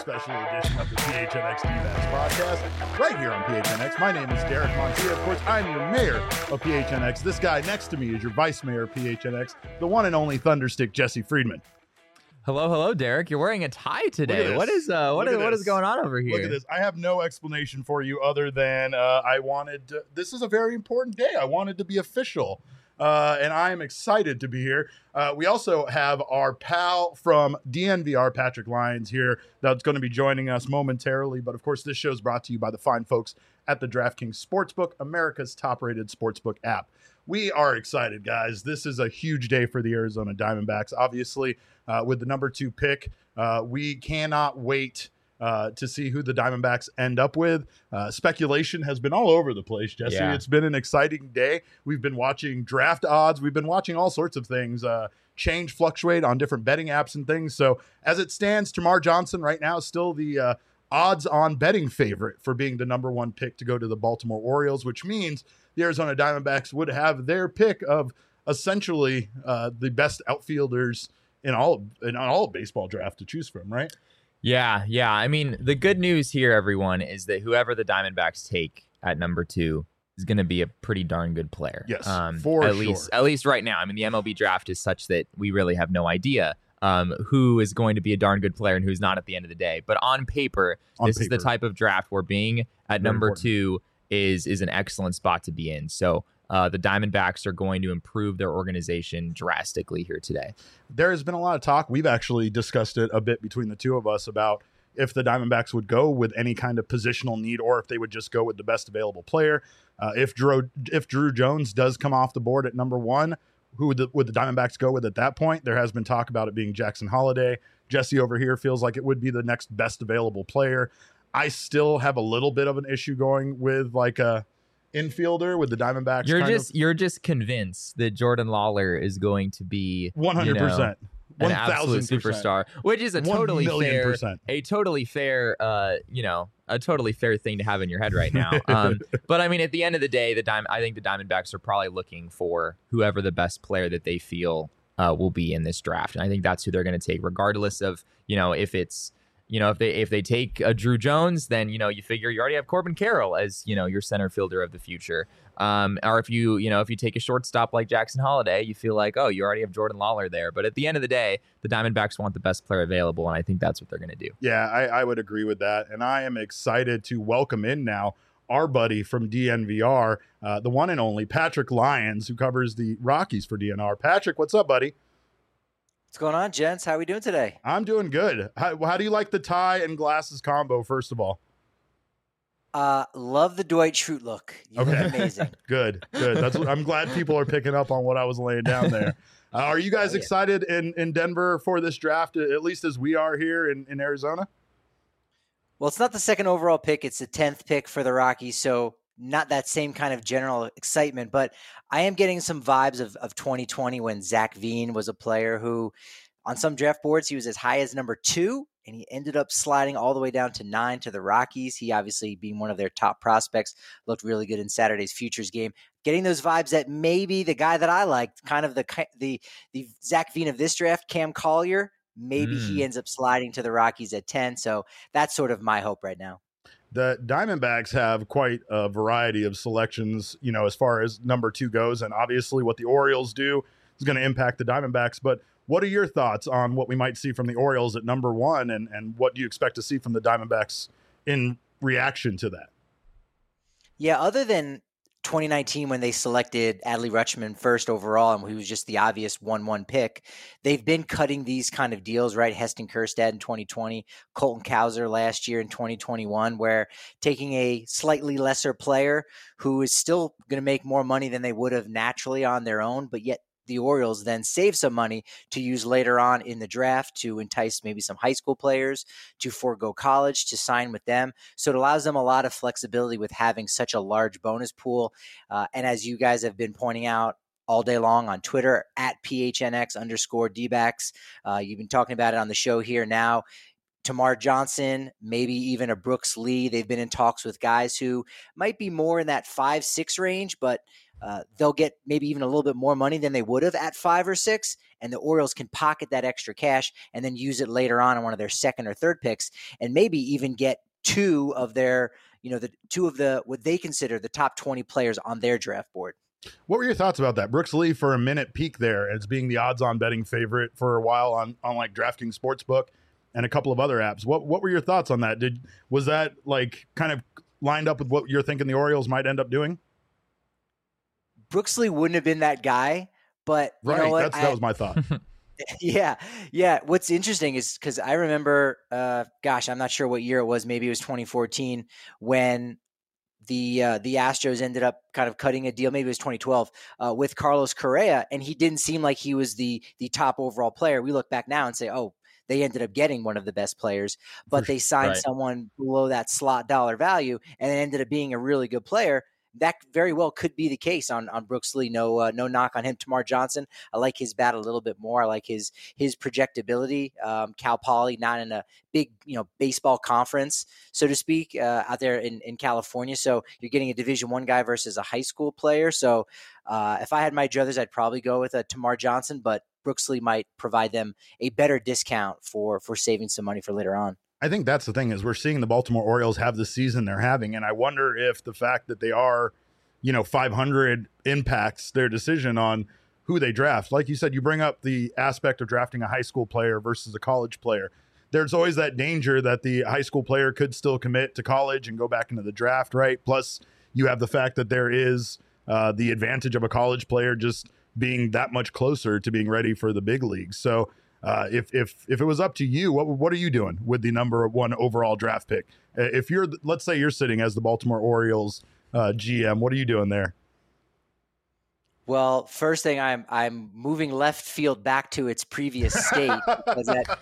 special edition of the PHNX D-Backs podcast right here on PHNX. My name is Derek Montilla. Of course, I'm your mayor of PHNX. This guy next to me is your vice mayor of PHNX, the one and only Thunderstick, Jesse Friedman. Hello, Derek. You're wearing a tie today. What is going on over here? Look at this. I have no explanation for you other than this is a very important day. I wanted to be official. And I am excited to be here. We also have our pal from DNVR, Patrick Lyons, here that's going to be joining us momentarily. But of course, this show is brought to you by the fine folks at the DraftKings Sportsbook, America's top-rated sportsbook app. We are excited, guys. This is a huge day for the Arizona Diamondbacks. Obviously, with the number 2 pick, we cannot wait to see who the Diamondbacks end up with. Speculation has been all over the place, Jesse. Yeah. It's been an exciting day. We've been watching draft odds. We've been watching all sorts of things fluctuate on different betting apps and things. So as it stands, Termarr Johnson right now is still the odds-on betting favorite for being the number 1 pick to go to the Baltimore Orioles, which means the Arizona Diamondbacks would have their pick of essentially the best outfielders in all baseball draft to choose from, right? Yeah. I mean, the good news here, everyone, is that whoever the Diamondbacks take at number 2 is going to be a pretty darn good player. Yes, at least right now. I mean, the MLB draft is such that we really have no idea who is going to be a darn good player and who's not at the end of the day. But on paper, this is the type of draft where being at number 2 is an excellent spot to be in. So the Diamondbacks are going to improve their organization drastically here today. There has been a lot of talk. We've actually discussed it a bit between the two of us about if the Diamondbacks would go with any kind of positional need or if they would just go with the best available player. If Drew Jones does come off the board at number 1, who would the Diamondbacks go with at that point? There has been talk about it being Jackson Holliday. Jesse over here feels like it would be the next best available player. I still have a little bit of an issue going with like a infielder with the Diamondbacks. You're just convinced that Jordan Lawler is going to be 100%. An absolute superstar, which is a totally fair thing to have in your head right now. But I mean, at the end of the day, I think the Diamondbacks are probably looking for whoever the best player that they feel will be in this draft, and I think that's who they're going to take, regardless of if they take a Drew Jones, then you figure you already have Corbin Carroll as your center fielder of the future. Or if you take a shortstop like Jackson Holliday, you feel like, oh, you already have Jordan Lawler there. But at the end of the day, the Diamondbacks want the best player available, and I think that's what they're going to do. Yeah, I would agree with that, and I am excited to welcome in now our buddy from DNVR, the one and only Patrick Lyons, who covers the Rockies for DNR. Patrick, what's up, buddy? What's going on, gents? How are we doing today? I'm doing good. How do you like the tie and glasses combo, first of all? Love the Dwight Schrute look. You look amazing. Good. I'm glad people are picking up on what I was laying down there. Are you guys excited in Denver for this draft, at least as we are here in Arizona? Well, it's not the second overall pick. It's the 10th pick for the Rockies, so not that same kind of general excitement, but I am getting some vibes of 2020 when Zach Veen was a player who, on some draft boards, he was as high as number 2, and he ended up sliding all the way down to 9 to the Rockies. He obviously, being one of their top prospects, looked really good in Saturday's futures game. Getting those vibes that maybe the guy that I liked, kind of the Zach Veen of this draft, Cam Collier, maybe he ends up sliding to the Rockies at 10. So that's sort of my hope right now. The Diamondbacks have quite a variety of selections, as far as number 2 goes. And obviously what the Orioles do is going to impact the Diamondbacks. But what are your thoughts on what we might see from the Orioles at number 1? And what do you expect to see from the Diamondbacks in reaction to that? Yeah, other than 2019 when they selected Adley Rutschman first overall, and he was just the obvious 1-1 pick, they've been cutting these kind of deals, right? Heston Kjerstad in 2020, Colton Cowser last year in 2021, where taking a slightly lesser player who is still going to make more money than they would have naturally on their own, but yet the Orioles then save some money to use later on in the draft to entice maybe some high school players to forego college to sign with them. So it allows them a lot of flexibility with having such a large bonus pool. And as you guys have been pointing out all day long on Twitter at PHNX_DBacks, you've been talking about it on the show here now. Termarr Johnson, maybe even a Brooks Lee. They've been in talks with guys who might be more in that 5-6 range, but they'll get maybe even a little bit more money than they would have at 5 or 6, and the Orioles can pocket that extra cash and then use it later on one of their second or third picks, and maybe even get two of what they consider the top 20 players on their draft board. What were your thoughts about that? Brooks Lee for a minute peak there as being the odds-on betting favorite for a while on like DraftKings Sportsbook and a couple of other apps. What were your thoughts on that? Was that like kind of lined up with what you're thinking the Orioles might end up doing? Brooks Lee wouldn't have been that guy, but you know what? That was my thought. Yeah. What's interesting is because I remember, I'm not sure what year it was. Maybe it was 2014 when the Astros ended up kind of cutting a deal. Maybe it was 2012 with Carlos Correa, and he didn't seem like he was the top overall player. We look back now and say, oh, they ended up getting one of the best players, but they signed someone below that slot dollar value, and it ended up being a really good player. That very well could be the case on Brooks Lee. No knock on him. Tamar Johnson, I like his bat a little bit more. I like his projectability. Cal Poly, not in a big baseball conference, so to speak, out there in California. So you're getting a Division I guy versus a high school player. So if I had my druthers, I'd probably go with a Tamar Johnson, but Brooks Lee might provide them a better discount for saving some money for later on. I think that's the thing is we're seeing the Baltimore Orioles have the season they're having. And I wonder if the fact that they are, 500 impacts their decision on who they draft. Like you said, you bring up the aspect of drafting a high school player versus a college player. There's always that danger that the high school player could still commit to college and go back into the draft, right? Plus you have the fact that there is the advantage of a college player just being that much closer to being ready for the big leagues. So, if it was up to you, what are you doing with the number 1 overall draft pick? If let's say you're sitting as the Baltimore Orioles GM, what are you doing there? Well, first thing, I'm moving left field back to its previous state because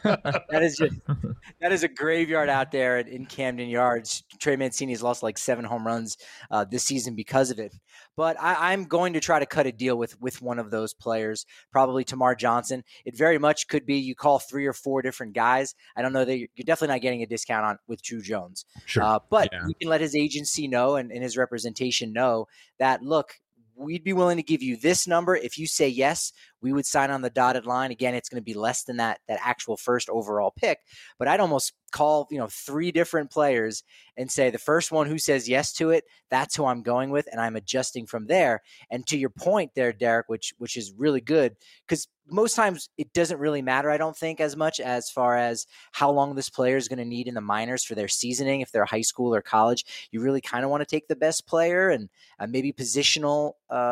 that is a graveyard out there in Camden Yards. Trey Mancini has lost like 7 home runs this season because of it. But I'm going to try to cut a deal with one of those players, probably Tamar Johnson. It very much could be you call 3 or 4 different guys. I don't know that you're definitely not getting a discount with Drew Jones. Sure. But you can let his agency know and his representation know that, look, we'd be willing to give you this number. If you say yes, we would sign on the dotted line. Again, it's going to be less than that actual first overall pick. But I'd almost call 3 different players and say the first one who says yes to it, that's who I'm going with, and I'm adjusting from there. And to your point there, Derek, which is really good, because most times it doesn't really matter, I don't think, as much as far as how long this player is going to need in the minors for their seasoning. If they're high school or college, you really kind of want to take the best player, and maybe positional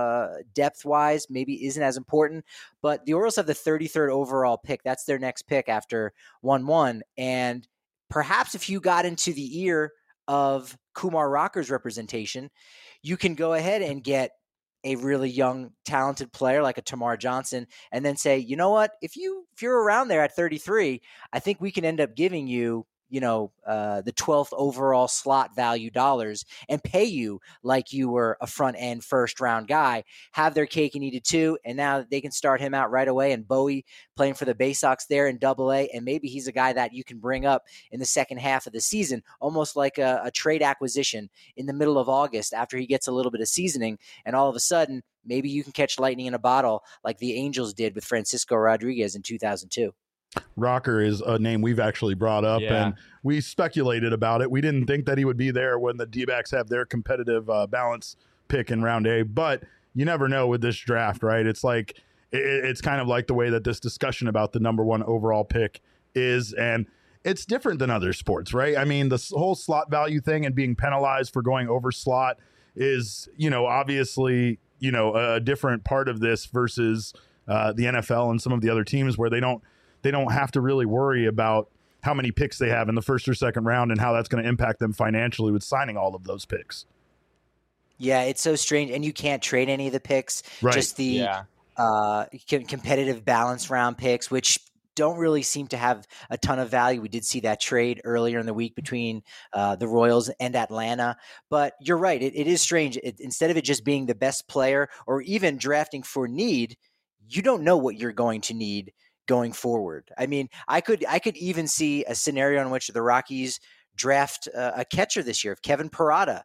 depth-wise maybe isn't as important. But the Orioles have the 33rd overall pick. That's their next pick after 1-1. And perhaps if you got into the ear of Kumar Rocker's representation, you can go ahead and get a really young, talented player like a Tamar Johnson and then say, you know what, if you're around there at 33, I think we can end up giving you, the 12th overall slot value dollars and pay you like you were a front end first round guy, have their cake and eat it too. And now they can start him out right away. And Bowie playing for the Bay Sox there in AA. And maybe he's a guy that you can bring up in the second half of the season, almost like a trade acquisition in the middle of August after he gets a little bit of seasoning. And all of a sudden, maybe you can catch lightning in a bottle like the Angels did with Francisco Rodriguez in 2002. Rocker is a name we've actually brought up, and we speculated about it. We didn't think that he would be there when the D-backs have their competitive balance pick in round A, but you never know with this draft, right? It's like it's kind of like the way that this discussion about the number 1 overall pick is, and it's different than other sports, right? I mean, the whole slot value thing and being penalized for going over slot is, obviously, a different part of this versus the NFL and some of the other teams where they don't have to really worry about how many picks they have in the first or second round and how that's going to impact them financially with signing all of those picks. Yeah, it's so strange. And you can't trade any of the picks, right. Just the competitive balance round picks, which don't really seem to have a ton of value. We did see that trade earlier in the week between the Royals and Atlanta. But you're right. It is strange. Instead of it just being the best player or even drafting for need, you don't know what you're going to need going forward. I mean, I could even see a scenario in which the Rockies draft a catcher this year, if Kevin Parada,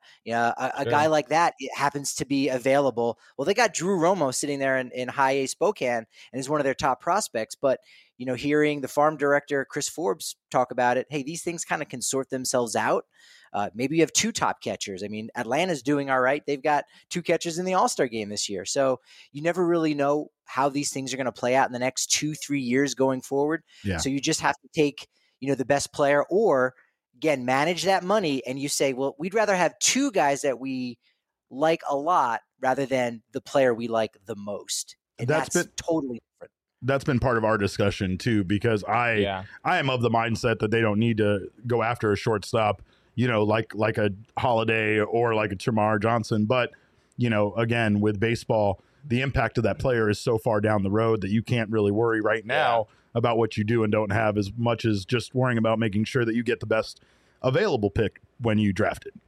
a guy like that happens to be available. Well, they got Drew Romo sitting there in high A Spokane and is one of their top prospects. But, hearing the farm director, Chris Forbes, talk about it, hey, these things kind of can sort themselves out. Maybe you have 2 top catchers. I mean, Atlanta's doing all right. They've got 2 catchers in the All-Star game this year. So you never really know how these things are going to play out in the next 2-3 years going forward. Yeah. So you just have to take, the best player, or again, manage that money. And you say, well, we'd rather have 2 guys that we like a lot rather than the player we like the most. And that's totally different. That's been part of our discussion too, because I am of the mindset that they don't need to go after a shortstop, like a Holiday or like a Termarr Johnson. But, again, with baseball, the impact of that player is so far down the road that you can't really worry right now about what you do and don't have, as much as just worrying about making sure that you get the best available pick when you draft it.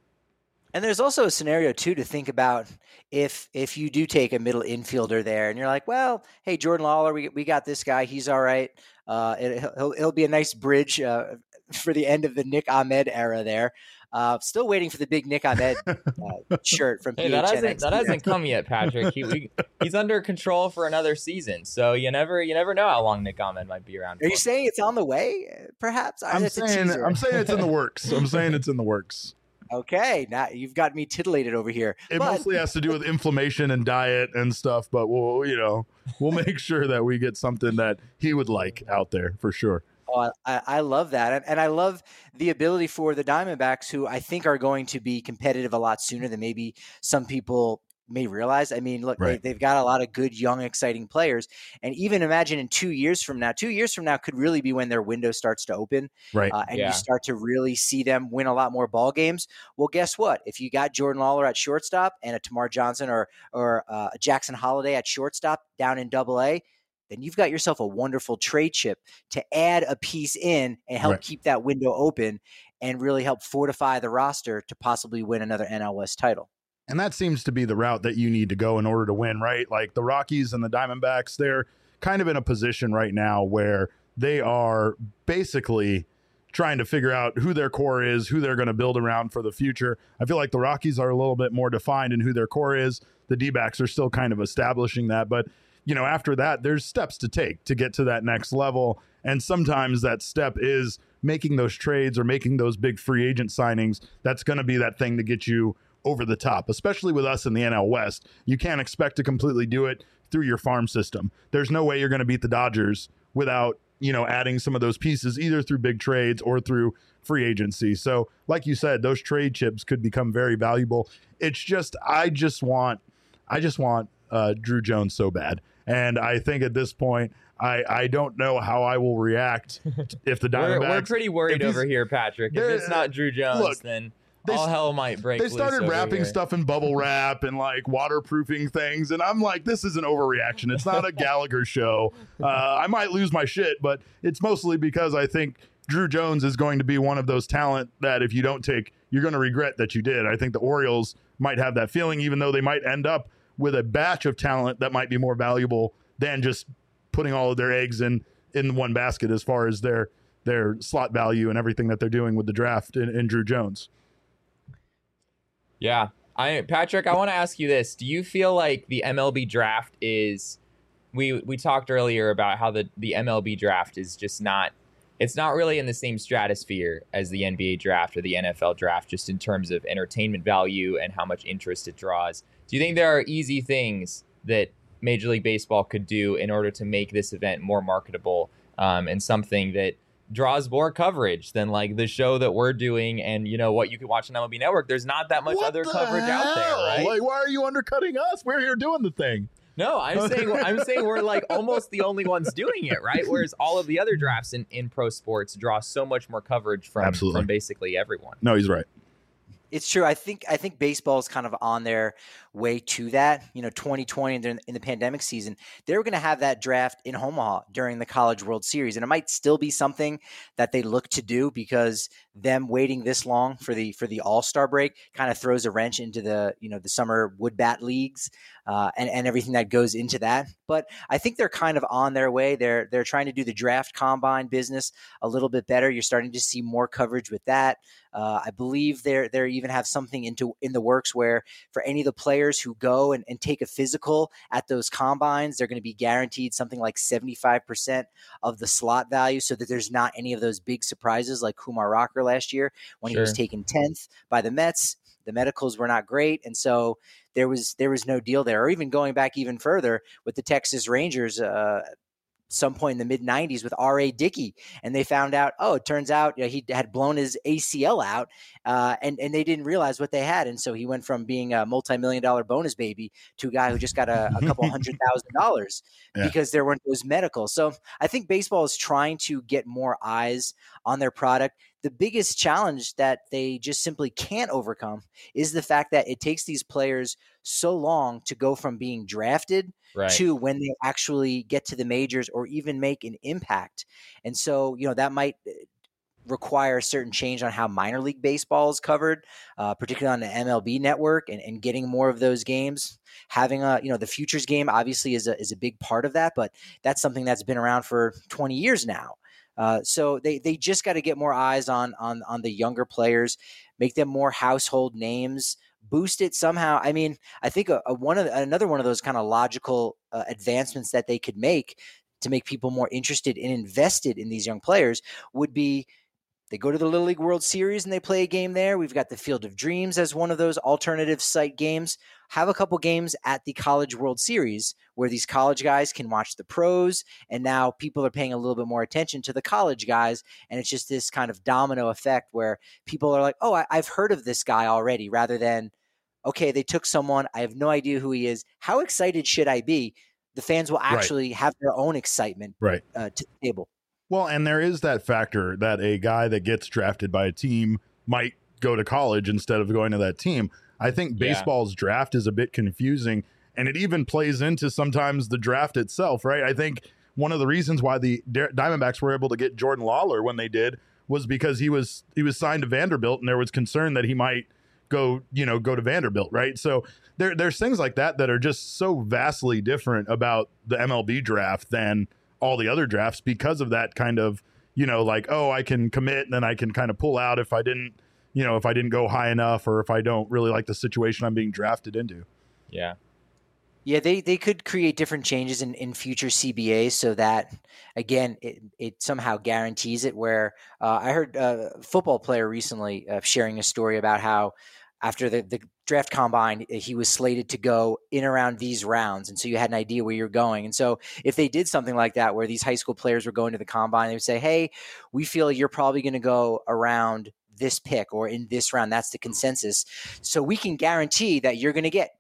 And there's also a scenario too to think about if you do take a middle infielder there and you're like, well, hey, Jordan Lawler, we got this guy. He's all right. It'll be a nice bridge for the end of the Nick Ahmed era there. Still waiting for the big Nick Ahmed shirt from PHNX. That hasn't come yet, Patrick. He's under control for another season, so you never know how long Nick Ahmed might be around. Are you saying it's on the way? Perhaps I'm saying it's in the works. I'm saying it's in the works. Okay, now you've got me titillated over here. It mostly has to do with inflammation and diet and stuff, but we'll make sure that we get something that he would like out there for sure. Oh, I love that. And I love the ability for the Diamondbacks, who I think are going to be competitive a lot sooner than maybe some people may realize. I mean, look, they've got a lot of good, young, exciting players. And even imagine in 2 years from now could really be when their window starts to open. Right. You start to really see them win a lot more ball games. Well, guess what? If you got Jordan Lawler at shortstop and a Termarr Johnson or a Jackson Holiday at shortstop down in Double-A, then you've got yourself a wonderful trade chip to add a piece in and help keep that window open and really help fortify the roster to possibly win another NL West title. And that seems to be the route that you need to go in order to win, right? Like the Rockies and the Diamondbacks, they're kind of in a position right now where they are basically trying to figure out who their core is, who they're going to build around for the future. I feel like the Rockies are a little bit more defined in who their core is. The D-backs are still kind of establishing that. But, after that, there's steps to take to get to that next level. And sometimes that step is making those trades or making those big free agent signings. That's going to be that thing to get you over the top, especially with us in the NL West. You can't expect to completely do it through your farm system. There's no way you're going to beat the Dodgers without, adding some of those pieces either through big trades or through free agency. So like you said, those trade chips could become very valuable. It's just, I just want Drew Jones so bad. And I think at this point, I don't know how I will react if the Diamondbacks... We're pretty worried over here, Patrick. If it's not Drew Jones, then... all hell might break loose. They started wrapping stuff in bubble wrap and like waterproofing things. And I'm like, this is an overreaction. It's not a Gallagher show. I might lose my shit, but it's mostly because I think Drew Jones is going to be one of those talent that if you don't take, you're going to regret that you did. I think the Orioles might have that feeling, even though they might end up with a batch of talent that might be more valuable than just putting all of their eggs in one basket as far as their slot value and everything that they're doing with the draft in Drew Jones. Yeah. Patrick, I want to ask you this. Do you feel like the MLB draft is, we talked earlier about how the MLB draft is just not, it's not really in the same stratosphere as the NBA draft or the NFL draft, just in terms of entertainment value and how much interest it draws. Do you think there are easy things that Major League Baseball could do in order to make this event more marketable and something that draws more coverage than like the show that we're doing and what you could watch on MLB Network? There's not that much other coverage out there, right? Like, why are you undercutting us? We're here doing the thing. No, I'm saying we're like almost the only ones doing it, right? Whereas all of the other drafts in pro sports draw so much more coverage from basically everyone. No, he's right. It's true. I think baseball is kind of on their way to that. 2020 in the pandemic season, they were going to have that draft in Omaha during the College World Series, and it might still be something that they look to do because them waiting this long for the All-Star break kind of throws a wrench into the the summer wood bat leagues and everything that goes into that. But I think they're kind of on their way. They're trying to do the draft combine business a little bit better. You're starting to see more coverage with that. I believe they even have something in the works where for any of the players who go and take a physical at those combines, they're going to be guaranteed something like 75% of the slot value so that there's not any of those big surprises like Kumar Rocker last year when he was taken 10th by the Mets. The medicals were not great. And so there was no deal there. Or even going back even further with the Texas Rangers, some point in the mid-90s with R.A. Dickey, and they found out, it turns out he had blown his ACL out, and they didn't realize what they had, and so he went from being a multi-million-dollar bonus baby to a guy who just got a couple $100,000 because there weren't those medicals. So I think baseball is trying to get more eyes on their product. The biggest challenge that they just simply can't overcome is the fact that it takes these players so long to go from being drafted to when they actually get to the majors or even make an impact. And so, that might require a certain change on how minor league baseball is covered, particularly on the MLB network and getting more of those games. Having the futures game obviously is a big part of that, but that's something that's been around for 20 years now. So they just got to get more eyes on the younger players, make them more household names, boost it somehow. I mean, I think another one of those kind of logical advancements that they could make to make people more interested and invested in these young players would be they go to the Little League World Series and they play a game there. We've got the Field of Dreams as one of those alternative site games. Have a couple games at the College World Series where these college guys can watch the pros, and now people are paying a little bit more attention to the college guys, and it's just this kind of domino effect where people are like, I've heard of this guy already, rather than, okay, they took someone, I have no idea who he is. How excited should I be? The fans will actually have their own excitement to the table. Well, and there is that factor that a guy that gets drafted by a team might go to college instead of going to that team. I think baseball's draft is a bit confusing, and it even plays into sometimes the draft itself, right? I think one of the reasons why the Diamondbacks were able to get Jordan Lawler when they did was because he was signed to Vanderbilt, and there was concern that he might go to Vanderbilt, right? So there's things like that are just so vastly different about the MLB draft than all the other drafts because of that kind of, I can commit and then I can kind of pull out if I didn't go high enough or if I don't really like the situation I'm being drafted into. Yeah. Yeah, they could create different changes in future CBAs so that, again, it somehow guarantees it. Where I heard a football player recently sharing a story about how after the draft combine, he was slated to go in around these rounds. And so you had an idea where you're going. And so if they did something like that, where these high school players were going to the combine, they would say, hey, we feel you're probably going to go around this pick or in this round. That's the consensus. So we can guarantee that you're going to get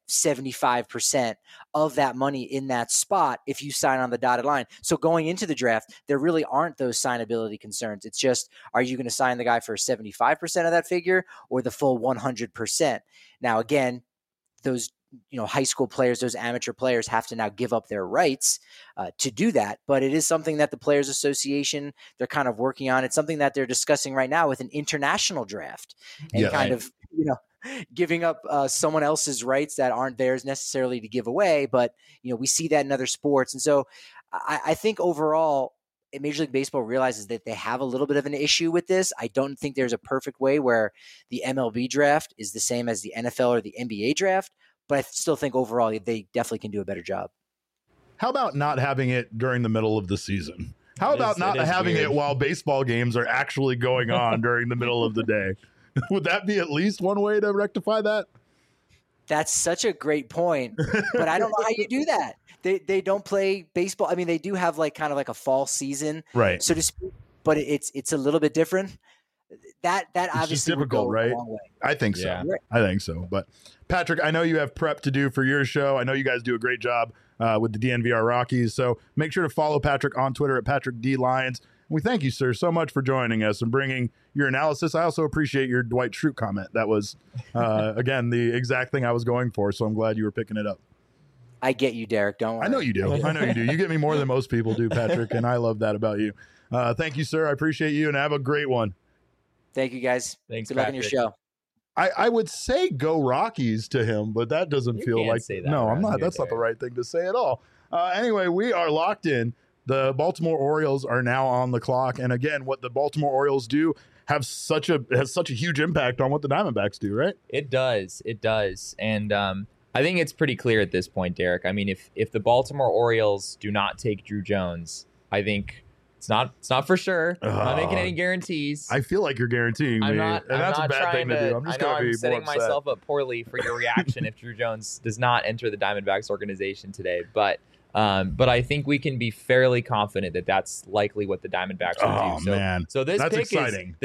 75% of that money in that spot if you sign on the dotted line. So going into the draft, there really aren't those signability concerns. It's just, are you going to sign the guy for 75% of that figure or the full 100%? Now, again, those high school players, those amateur players have to now give up their rights to do that. But it is something that the Players Association, they're kind of working on. It's something that they're discussing right now with an international draft and of, giving up someone else's rights that aren't theirs necessarily to give away. But, we see that in other sports. And so I think overall, Major League Baseball realizes that they have a little bit of an issue with this. I don't think there's a perfect way where the MLB draft is the same as the NFL or the NBA draft. But I still think overall they definitely can do a better job. How about not having it during the middle of the season? How about not having it while baseball games are actually going on during the middle of the day? Would that be at least one way to rectify that? That's such a great point, but I don't know how you do that. They don't play baseball. I mean, they do have kind of a fall season, right, so to speak, but it's a little bit different. That obviously would go right? a long way. I think so. Yeah. I think so. But Patrick, I know you have prep to do for your show. I know you guys do a great job with the DNVR Rockies. So make sure to follow Patrick on Twitter at Patrick D Lyons. We thank you, sir, so much for joining us and bringing your analysis. I also appreciate your Dwight Schrute comment. That was, again, the exact thing I was going for, so I'm glad you were picking it up. I get you, Derek. Don't worry. I know you do. You get me more than most people do, Patrick, and I love that about you. Thank you, sir. I appreciate you, and have a great one. Thank you, guys. Thanks, Good luck on your show. I would say go Rockies to him, but that doesn't feel like say that. No, I'm not. That's not the right thing to say at all. Anyway, we are locked in. The Baltimore Orioles are now on the clock, and again, what the Baltimore Orioles do has such a huge impact on what the Diamondbacks do, right? It does, and I think it's pretty clear at this point, Derek. I mean, if the Baltimore Orioles do not take Drew Jones, I think it's not for sure. I'm not making any guarantees. I feel like you're guaranteeing me, and that's a bad thing to do. I'm just going to be setting more upset. myself up poorly for your reaction if Drew Jones does not enter the Diamondbacks organization today, but I think we can be fairly confident that that's likely what the Diamondbacks will do. Man. So this that's pick exciting.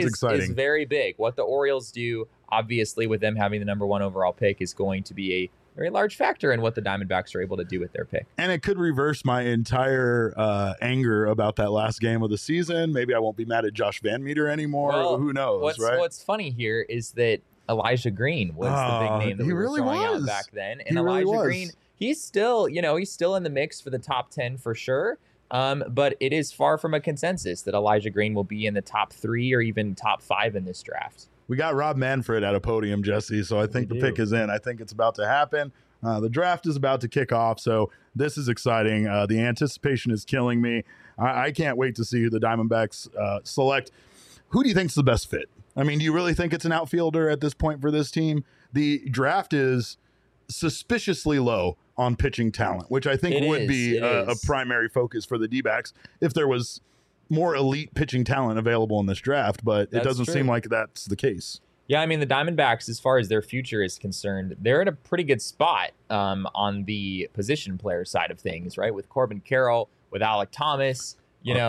is very big. What the Orioles do, obviously, with them having the number 1 overall pick, is going to be a very large factor in what the Diamondbacks are able to do with their pick. And it could reverse my entire anger about that last game of the season. Maybe I won't be mad at Josh Van Meter anymore. Well, who knows, right? What's funny here is that Elijah Green was the big name that we were throwing out back then. And Elijah Green, he's still in the mix for the top 10 for sure. But it is far from a consensus that Elijah Green will be in the top 3 or even top 5 in this draft. We got Rob Manfred at a podium, Jesse, so I think the pick is in. I think it's about to happen. The draft is about to kick off, so this is exciting. The anticipation is killing me. I can't wait to see who the Diamondbacks select. Who do you think is the best fit? I mean, do you really think it's an outfielder at this point for this team? The draft is suspiciously low on pitching talent, which I think would be a primary focus for the D-backs if there was more elite pitching talent available in this draft, but it doesn't seem like that's the case. Yeah, I mean, the Diamondbacks, as far as their future is concerned, they're in a pretty good spot on the position player side of things, right? With Corbin Carroll, with Alek Thomas,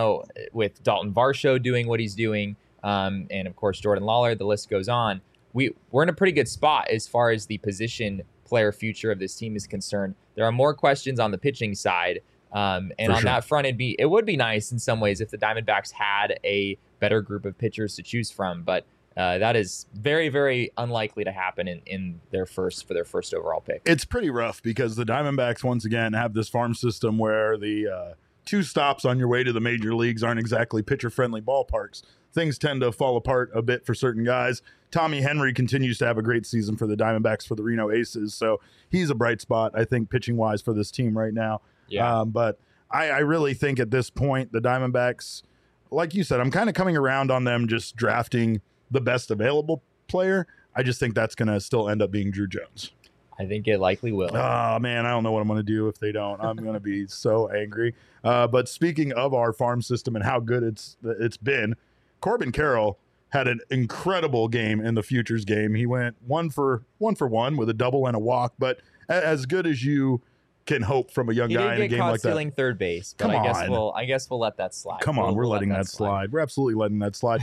with Dalton Varsho doing what he's doing, and of course Jordan Lawler, the list goes on. We're in a pretty good spot as far as the position player future of this team is concerned. There are more questions on the pitching side. That front, it would be nice in some ways if the Diamondbacks had a better group of pitchers to choose from, but that is very, very unlikely to happen in their first overall pick. It's pretty rough because the Diamondbacks once again have this farm system where the 2 stops on your way to the major leagues aren't exactly pitcher-friendly ballparks. Things tend to fall apart a bit for certain guys. Tommy Henry continues to have a great season for the Diamondbacks for the Reno Aces, so he's a bright spot, I think, pitching-wise for this team right now. Yeah. But I really think at this point, the Diamondbacks, like you said, I'm kind of coming around on them just drafting the best available player. I just think that's going to still end up being Drew Jones. I think it likely will. Oh, man, I don't know what I'm going to do if they don't. I'm going to be so angry. But speaking of our farm system and how good it's been, Corbin Carroll had an incredible game in the Futures game. He went 1 for 1 with a double and a walk, but as good as you can hope from a young guy in a game like that. He did get caught stealing third base, but I guess we'll let that slide. Come on, we're letting that slide. We're absolutely letting that slide.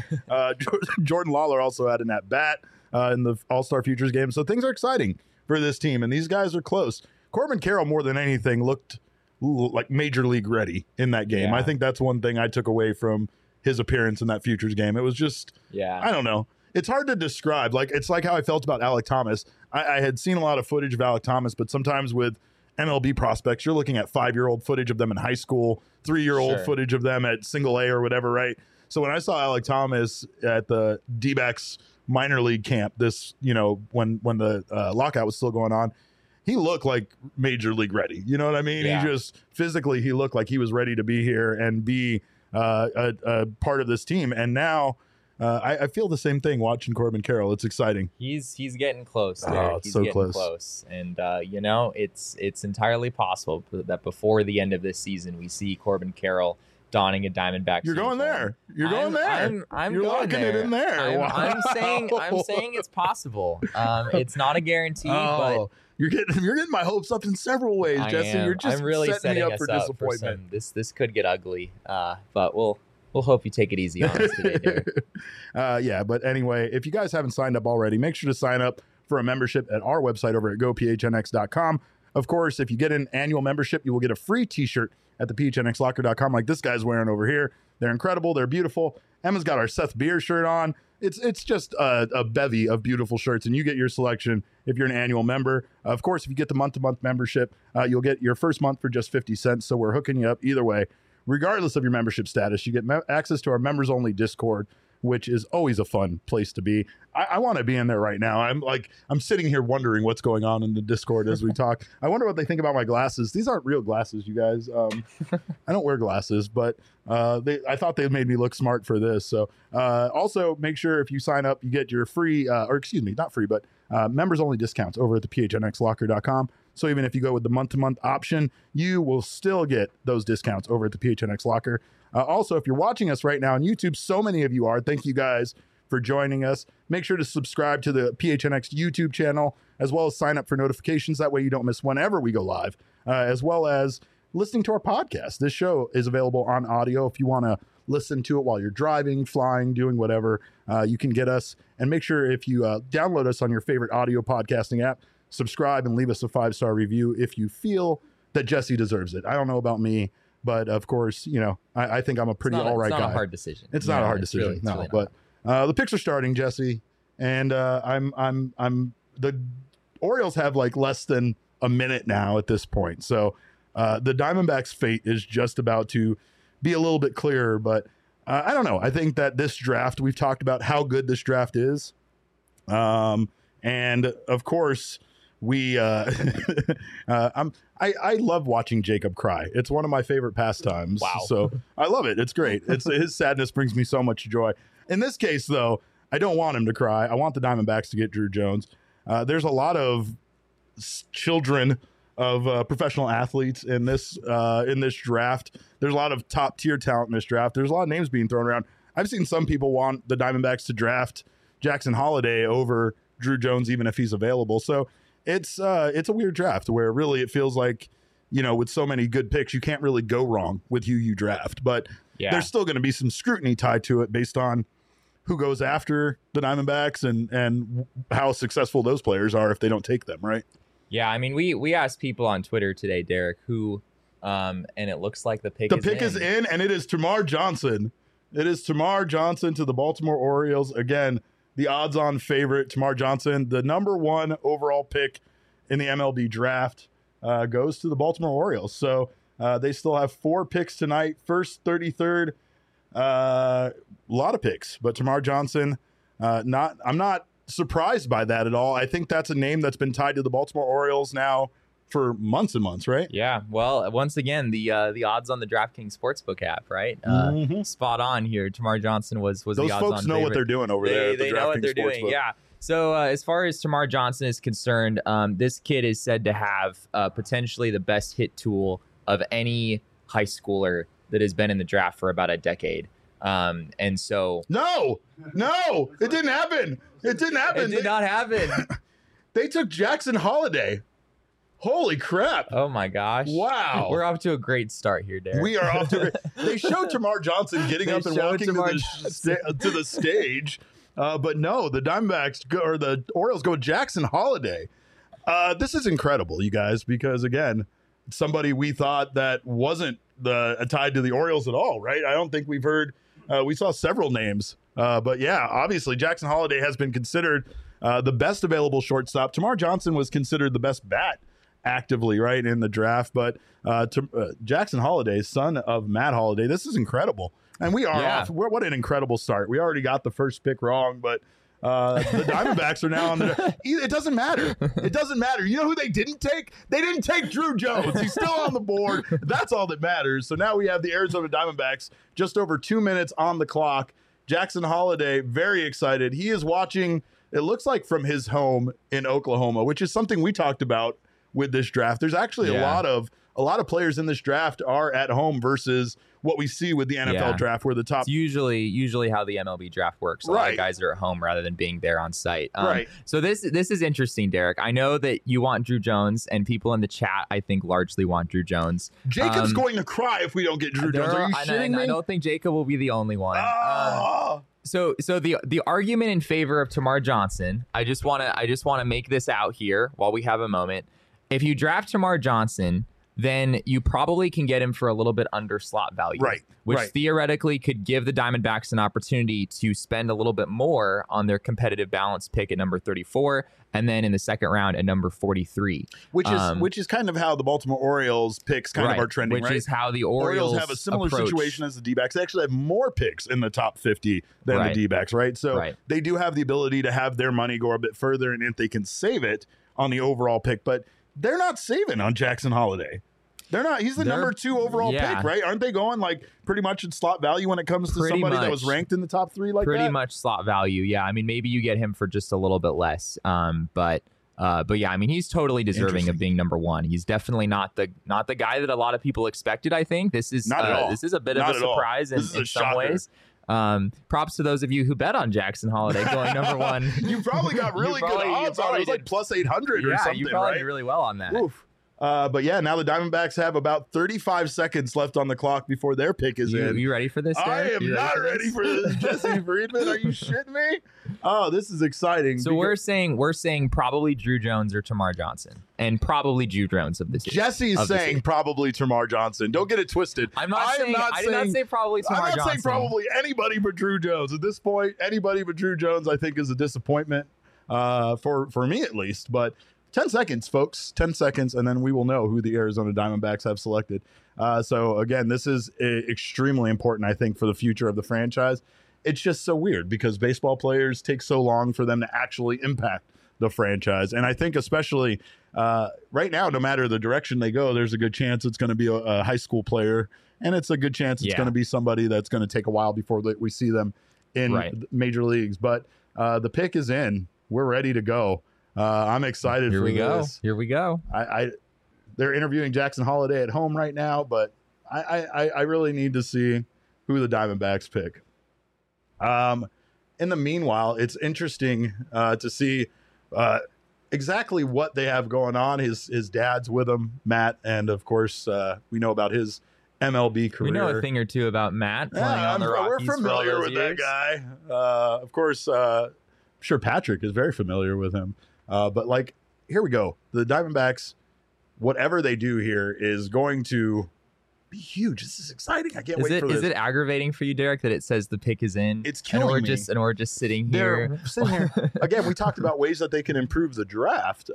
Jordan Lawler also had an at bat in the All-Star Futures game, so things are exciting for this team, and these guys are close. Corbin Carroll, more than anything, looked like major league ready in that game. I think that's one thing I took away from his appearance in that Futures game. It was just, I don't know. It's hard to describe. It's like how I felt about Alek Thomas. I had seen a lot of footage of Alek Thomas, but sometimes with MLB prospects, you're looking at 5-year-old footage of them in high school, 3-year-old footage of them at single A or whatever, right? So when I saw Alek Thomas at the D-backs minor league camp, when the lockout was still going on, he looked like major league ready. You know what I mean? Yeah. He just physically, he looked like he was ready to be here and be a part of this team. And now I feel the same thing watching Corbin Carroll. It's exciting. He's getting close. He's so close. And it's entirely possible that before the end of this season, we see Corbin Carroll donning a Diamondbacks. You're going there. You're going there. You're locking it in there. I'm saying it's possible. It's not a guarantee, but you're getting my hopes up in several ways, Jesse. You're just really setting me up for disappointment. This could get ugly, but we'll hope you take it easy on us today, Derek. But anyway, if you guys haven't signed up already, make sure to sign up for a membership at our website over at gophnx.com. Of course, if you get an annual membership, you will get a free t-shirt at the phnxlocker.com like this guy's wearing over here. They're incredible. They're beautiful. Emma's got our Seth Beer shirt on. It's just a bevy of beautiful shirts, and you get your selection if you're an annual member. Of course, if you get the month-to-month membership, you'll get your first month for just 50 cents. So we're hooking you up either way. Regardless of your membership status, you get access to our members-only Discord, which is always a fun place to be. I want to be in there right now. I'm sitting here wondering what's going on in the Discord as we talk. I wonder what they think about my glasses. These aren't real glasses, you guys. I don't wear glasses, but I thought they made me look smart for this. So also make sure if you sign up, you get your free, not free, but members only discounts over at the phnxlocker.com. So even if you go with the month-to-month option, you will still get those discounts over at the PHNX Locker. Also, if you're watching us right now on YouTube, so many of you are. Thank you guys for joining us. Make sure to subscribe to the PHNX YouTube channel, as well as sign up for notifications. That way you don't miss whenever we go live, as well as listening to our podcast. This show is available on audio. If you want to listen to it while you're driving, flying, doing whatever, you can get us. And make sure if you download us on your favorite audio podcasting app, subscribe and leave us a 5-star review if you feel that Jesse deserves it. I don't know about me, but of course, I think I'm a pretty all right guy. It's not a hard decision. It's not a hard decision. Really but the picks are starting, Jesse, and the Orioles have like less than a minute now at this point. So the Diamondbacks' fate is just about to be a little bit clearer, but I don't know. I think that this draft, we've talked about how good this draft is. And of course, I love watching Jacob cry. It's one of my favorite pastimes. Wow. So I love it. It's great. His sadness brings me so much joy. In this case, though, I don't want him to cry. I want the Diamondbacks to get Drew Jones. There's a lot of children of professional athletes in this draft. There's a lot of top tier talent in this draft. There's a lot of names being thrown around. I've seen some people want the Diamondbacks to draft Jackson Holliday over Drew Jones, even if he's available. So it's a weird draft where really it feels like, with so many good picks, you can't really go wrong with who you draft. But there's still going to be some scrutiny tied to it based on who goes after the Diamondbacks and how successful those players are if they don't take them, right? Yeah, I mean, we asked people on Twitter today, Derek, who, and it looks like the pick is in, and it is Termarr Johnson. It is Termarr Johnson to the Baltimore Orioles. Again, the odds-on favorite, Termarr Johnson, the number 1 overall pick in the MLB draft, goes to the Baltimore Orioles. So they still have 4 picks tonight. First, 33rd, a lot of picks. But Termarr Johnson, I'm not surprised by that at all. I think that's a name that's been tied to the Baltimore Orioles now for months and months, right? Yeah. Well, once again, the odds on the DraftKings Sportsbook app, right? Spot on here. Termarr Johnson was those the odds on folks know favorite. What they're doing over there. At the they know what they're doing. Sportsbook. Yeah. So as far as Termarr Johnson is concerned, this kid is said to have potentially the best hit tool of any high schooler that has been in the draft for about a decade. And so no, it didn't happen. It didn't happen. It did not happen. They took Jackson Holliday. Holy crap. Oh my gosh. Wow. We're off to a great start here, Derek. We are off to They showed Termarr Johnson getting up and walking to the stage. But no, the Diamondbacks or the Orioles go with Jackson Holliday. This is incredible, you guys, because again, somebody we thought that wasn't tied to the Orioles at all, right? I don't think we've heard. We saw several names, but yeah, obviously Jackson Holliday has been considered the best available shortstop. Termarr Johnson was considered the best bat actively, right, in the draft. But Jackson Holliday, son of Matt Holliday, this is incredible. And we are off. What an incredible start. We already got the first pick wrong, but the Diamondbacks are now on the... It doesn't matter. It doesn't matter. You know who they didn't take? They didn't take Drew Jones. He's still on the board. That's all that matters. So now we have the Arizona Diamondbacks just over 2 minutes on the clock. Jackson Holliday, very excited. He is watching, it looks like from his home in Oklahoma, which is something we talked about with this draft. There's actually a lot of players in this draft are at home versus what we see with the NFL draft, where the top... It's usually how the MLB draft works. A lot of guys are at home rather than being there on site. Right. So this is interesting, Derek. I know that you want Drew Jones, and people in the chat, I think, largely want Drew Jones. Jacob's going to cry if we don't get Drew Jones. Are you shitting me? I don't think Jacob will be the only one. So the argument in favor of Termarr Johnson, I just want to make this out here while we have a moment. If you draft Termarr Johnson, then you probably can get him for a little bit under slot value. Right. Which theoretically could give the Diamondbacks an opportunity to spend a little bit more on their competitive balance pick at number 34, and then in the second round at number 43. Which is kind of how the Baltimore Orioles picks kind of are trending, which is how the Orioles have a similar situation as the D-backs. They actually have more picks in the top 50 than the D-backs, right? So they do have the ability to have their money go a bit further, and if they can save it on the overall pick, but they're not saving on Jackson Holiday. They're not. He's the number 2 overall pick, right? Aren't they going like pretty much in slot value when it comes to somebody that was ranked in the top 3 like that? Pretty much slot value, yeah. I mean, maybe you get him for just a little bit less, but yeah, I mean, he's totally deserving of being number 1. He's definitely not the guy that a lot of people expected. I think this is a bit of a surprise in some ways. Props to those of you who bet on Jackson Holiday going number 1. You probably got really good odds on it. It was like plus 800 or something, you probably did really well on that. Oof. But yeah, now the Diamondbacks have about 35 seconds left on the clock before their pick is in. You ready for this, Derek? I am not ready for this, Jesse Friedman. Are you shitting me? Oh, this is exciting. So we're saying probably Drew Jones or Tamar Johnson, and probably Drew Jones of this. Jesse's saying probably Tamar Johnson. Don't get it twisted. I did not say probably Tamar Johnson. I'm not saying probably anybody but Drew Jones. At this point, anybody but Drew Jones, I think, is a disappointment for me at least. But 10 seconds, folks. 10 seconds, and then we will know who the Arizona Diamondbacks have selected. So, again, this is extremely important, I think, for the future of the franchise. It's just so weird because baseball players take so long for them to actually impact the franchise. And I think especially right now, no matter the direction they go, there's a good chance it's going to be a high school player, and it's a good chance it's going to be somebody that's going to take a while before we see them in major leagues. But the pick is in. We're ready to go. I'm excited for this. Here we go. They're interviewing Jackson Holiday at home right now, but I really need to see who the Diamondbacks pick. In the meanwhile, it's interesting to see exactly what they have going on. His dad's with him, Matt, and of course we know about his MLB career. We know a thing or two about Matt playing on the Rockies. We're familiar with that guy. Of course, I'm sure Patrick is very familiar with him. But like, here we go. The Diamondbacks, whatever they do here is going to be huge. This is exciting. I can't wait for this. Is it aggravating for you, Derek, that it says the pick is in? It's killing me. And we're just sitting here. Again, we talked about ways that they can improve the draft.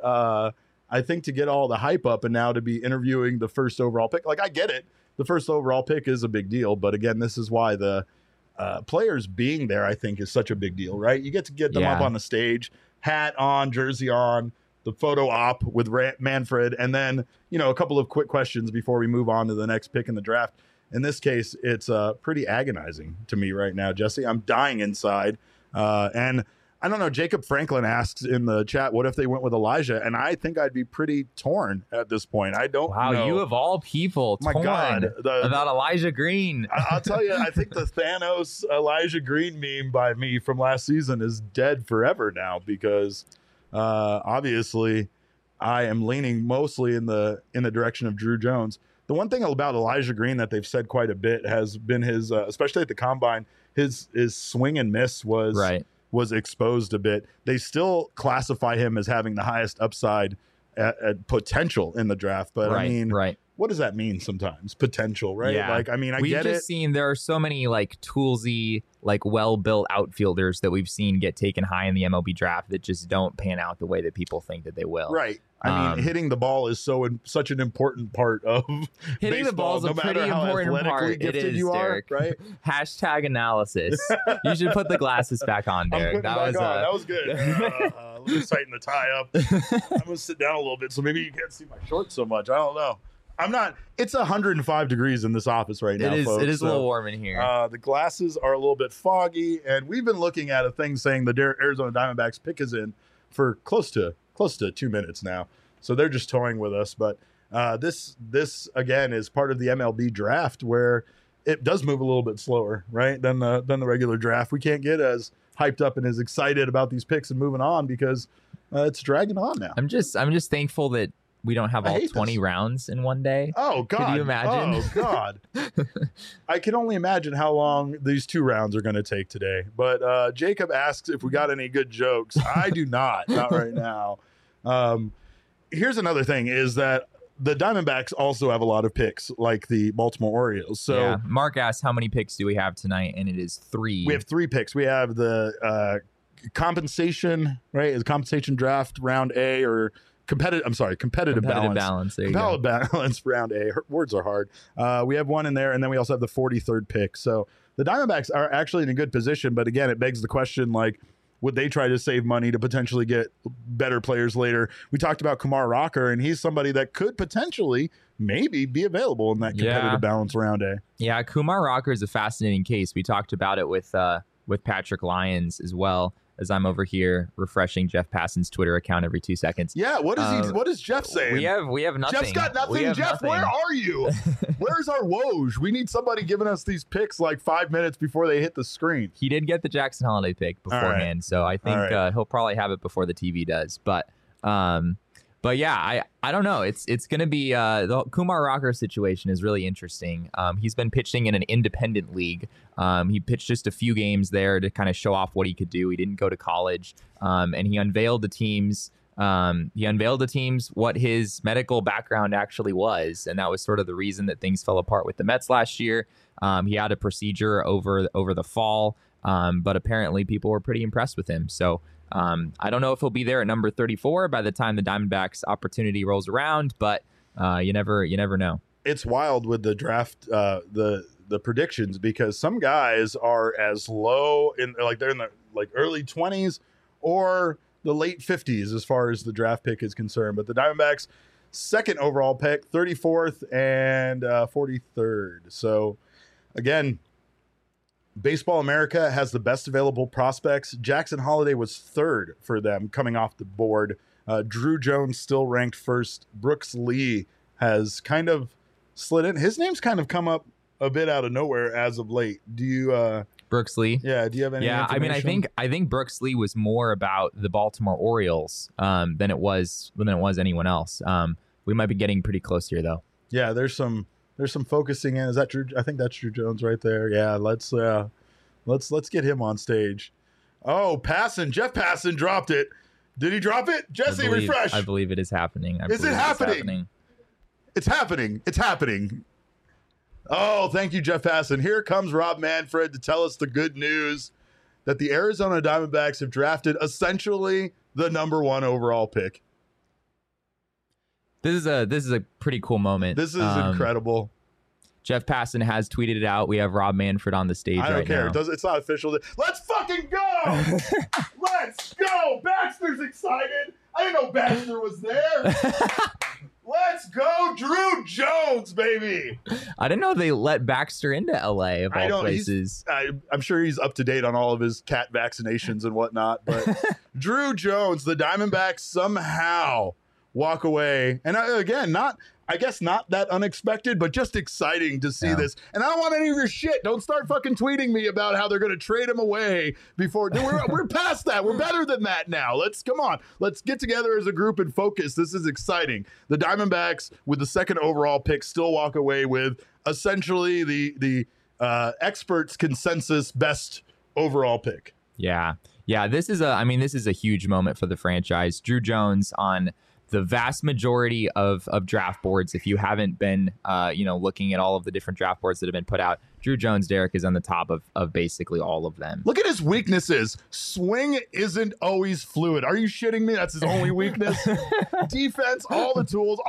I think to get all the hype up and now to be interviewing the first overall pick. Like, I get it. The first overall pick is a big deal. But again, this is why the players being there, I think, is such a big deal, right? You get to get them up on the stage, hat on, jersey on, the photo op with Manfred, and then, a couple of quick questions before we move on to the next pick in the draft. In this case, it's pretty agonizing to me right now, Jesse. I'm dying inside. And I don't know, Jacob Franklin asks in the chat, what if they went with Elijah? And I think I'd be pretty torn at this point. I don't know. Wow, you of all people torn about Elijah Green. I'll tell you, I think the Thanos Elijah Green meme by me from last season is dead forever now because obviously I am leaning mostly in the direction of Drew Jones. The one thing about Elijah Green that they've said quite a bit has been his, especially at the combine, his swing and miss was exposed a bit. They still classify him as having the highest upside at potential in the draft. But I mean, what does that mean sometimes? Potential, right? Yeah. Like, I mean, we've get it. We've just seen there are so many like toolsy, like well-built outfielders that we've seen get taken high in the MLB draft that just don't pan out the way that people think that they will. Right. I mean, hitting the ball is such an important part of hitting baseball, the ball is a pretty important part. It is, Derek. Right? Hashtag analysis. You should put the glasses back on, Derek. That was good. Let me tighten the tie up. I'm gonna sit down a little bit so maybe you can't see my shorts so much. I don't know. I'm not. It's 105 degrees in this office right now, folks. It is a little warm in here. The glasses are a little bit foggy, and we've been looking at a thing saying the Arizona Diamondbacks pick is in for close to 2 minutes now. So they're just toying with us. But this again is part of the MLB draft where it does move a little bit slower, right, than the regular draft. We can't get as hyped up and as excited about these picks and moving on because it's dragging on now. I'm just thankful that we don't have all 20 rounds in one day. Oh, God. Could you imagine? Oh, God. I can only imagine how long these 2 rounds are going to take today. But Jacob asks if we got any good jokes. I do not. Not right now. Here's another thing is that the Diamondbacks also have a lot of picks, like the Baltimore Orioles. So yeah. Mark asked, how many picks do we have tonight? And it is 3. We have 3 picks. We have the compensation, right? Is compensation draft round A or competitive balance. There you competitive go. balance round A. Words are hard. We have one in there, and then we also have the 43rd pick. So the Diamondbacks are actually in a good position, but again, it begs the question, like, would they try to save money to potentially get better players later? We talked about Kumar Rocker, and he's somebody that could potentially maybe be available in that competitive balance round A. Yeah, Kumar Rocker is a fascinating case. We talked about it with Patrick Lyons as well, as I'm over here refreshing Jeff Passan's Twitter account every 2 seconds. Yeah, what is Jeff saying? We have nothing. Jeff's got nothing. Jeff, nothing. Where are you? Where's our Woj? We need somebody giving us these picks like 5 minutes before they hit the screen. He did get the Jackson Holiday pick beforehand, so I think he'll probably have it before the TV does. But yeah, I don't know. It's going to be the Kumar Rocker situation is really interesting. He's been pitching in an independent league. He pitched just a few games there to kind of show off what he could do. He didn't go to college, and he unveiled the teams. What his medical background actually was, and that was sort of the reason that things fell apart with the Mets last year. He had a procedure over the fall, but apparently people were pretty impressed with him. So. I don't know if he'll be there at number 34 by the time the Diamondbacks opportunity rolls around, but you never know. It's wild with the draft, the predictions, because some guys are as low they're in the early 20s or the late 50s as far as the draft pick is concerned. But the Diamondbacks second overall pick, 34th and 43rd. So again, Baseball America has the best available prospects. Jackson Holiday was 3rd for them coming off the board. Drew Jones still ranked 1st. Brooks Lee has kind of slid in. His name's kind of come up a bit out of nowhere as of late. Do you Brooks Lee? Yeah, do you have any information? I think Brooks Lee was more about the Baltimore Orioles than it was anyone else. We might be getting pretty close here though. Yeah, there's some focusing in. Is that Drew? I think that's Drew Jones right there. Yeah, let's get him on stage. Oh, Jeff Passan dropped it. Did he drop it? Jesse, refresh. I believe it is happening. Is it happening? It's happening. It's happening. Oh, thank you, Jeff Passan. Here comes Rob Manfred to tell us the good news that the Arizona Diamondbacks have drafted essentially the number 1 overall pick. This is a pretty cool moment. This is incredible. Jeff Passan has tweeted it out. We have Rob Manfred on the stage right now. I don't care. It's not official. Let's fucking go! Let's go! Baxter's excited. I didn't know Baxter was there. Let's go, Drew Jones, baby. I didn't know they let Baxter into LA of all places. I'm sure he's up to date on all of his cat vaccinations and whatnot. But Drew Jones, the Diamondbacks somehow walk away. And again, not that unexpected, but just exciting to see this. And I don't want any of your shit. Don't start fucking tweeting me about how they're going to trade him away before. We're past that. We're better than that now. Let's get together as a group and focus. This is exciting. The Diamondbacks, with the 2nd overall pick, still walk away with essentially the experts' consensus best overall pick. Yeah. This is a huge moment for the franchise. Drew Jones on the vast majority of draft boards. If you haven't been, looking at all of the different draft boards that have been put out, Drew Jones, Derek, is on the top of basically all of them. Look at his weaknesses. Swing isn't always fluid. Are you shitting me? That's his only weakness. Defense, all the tools.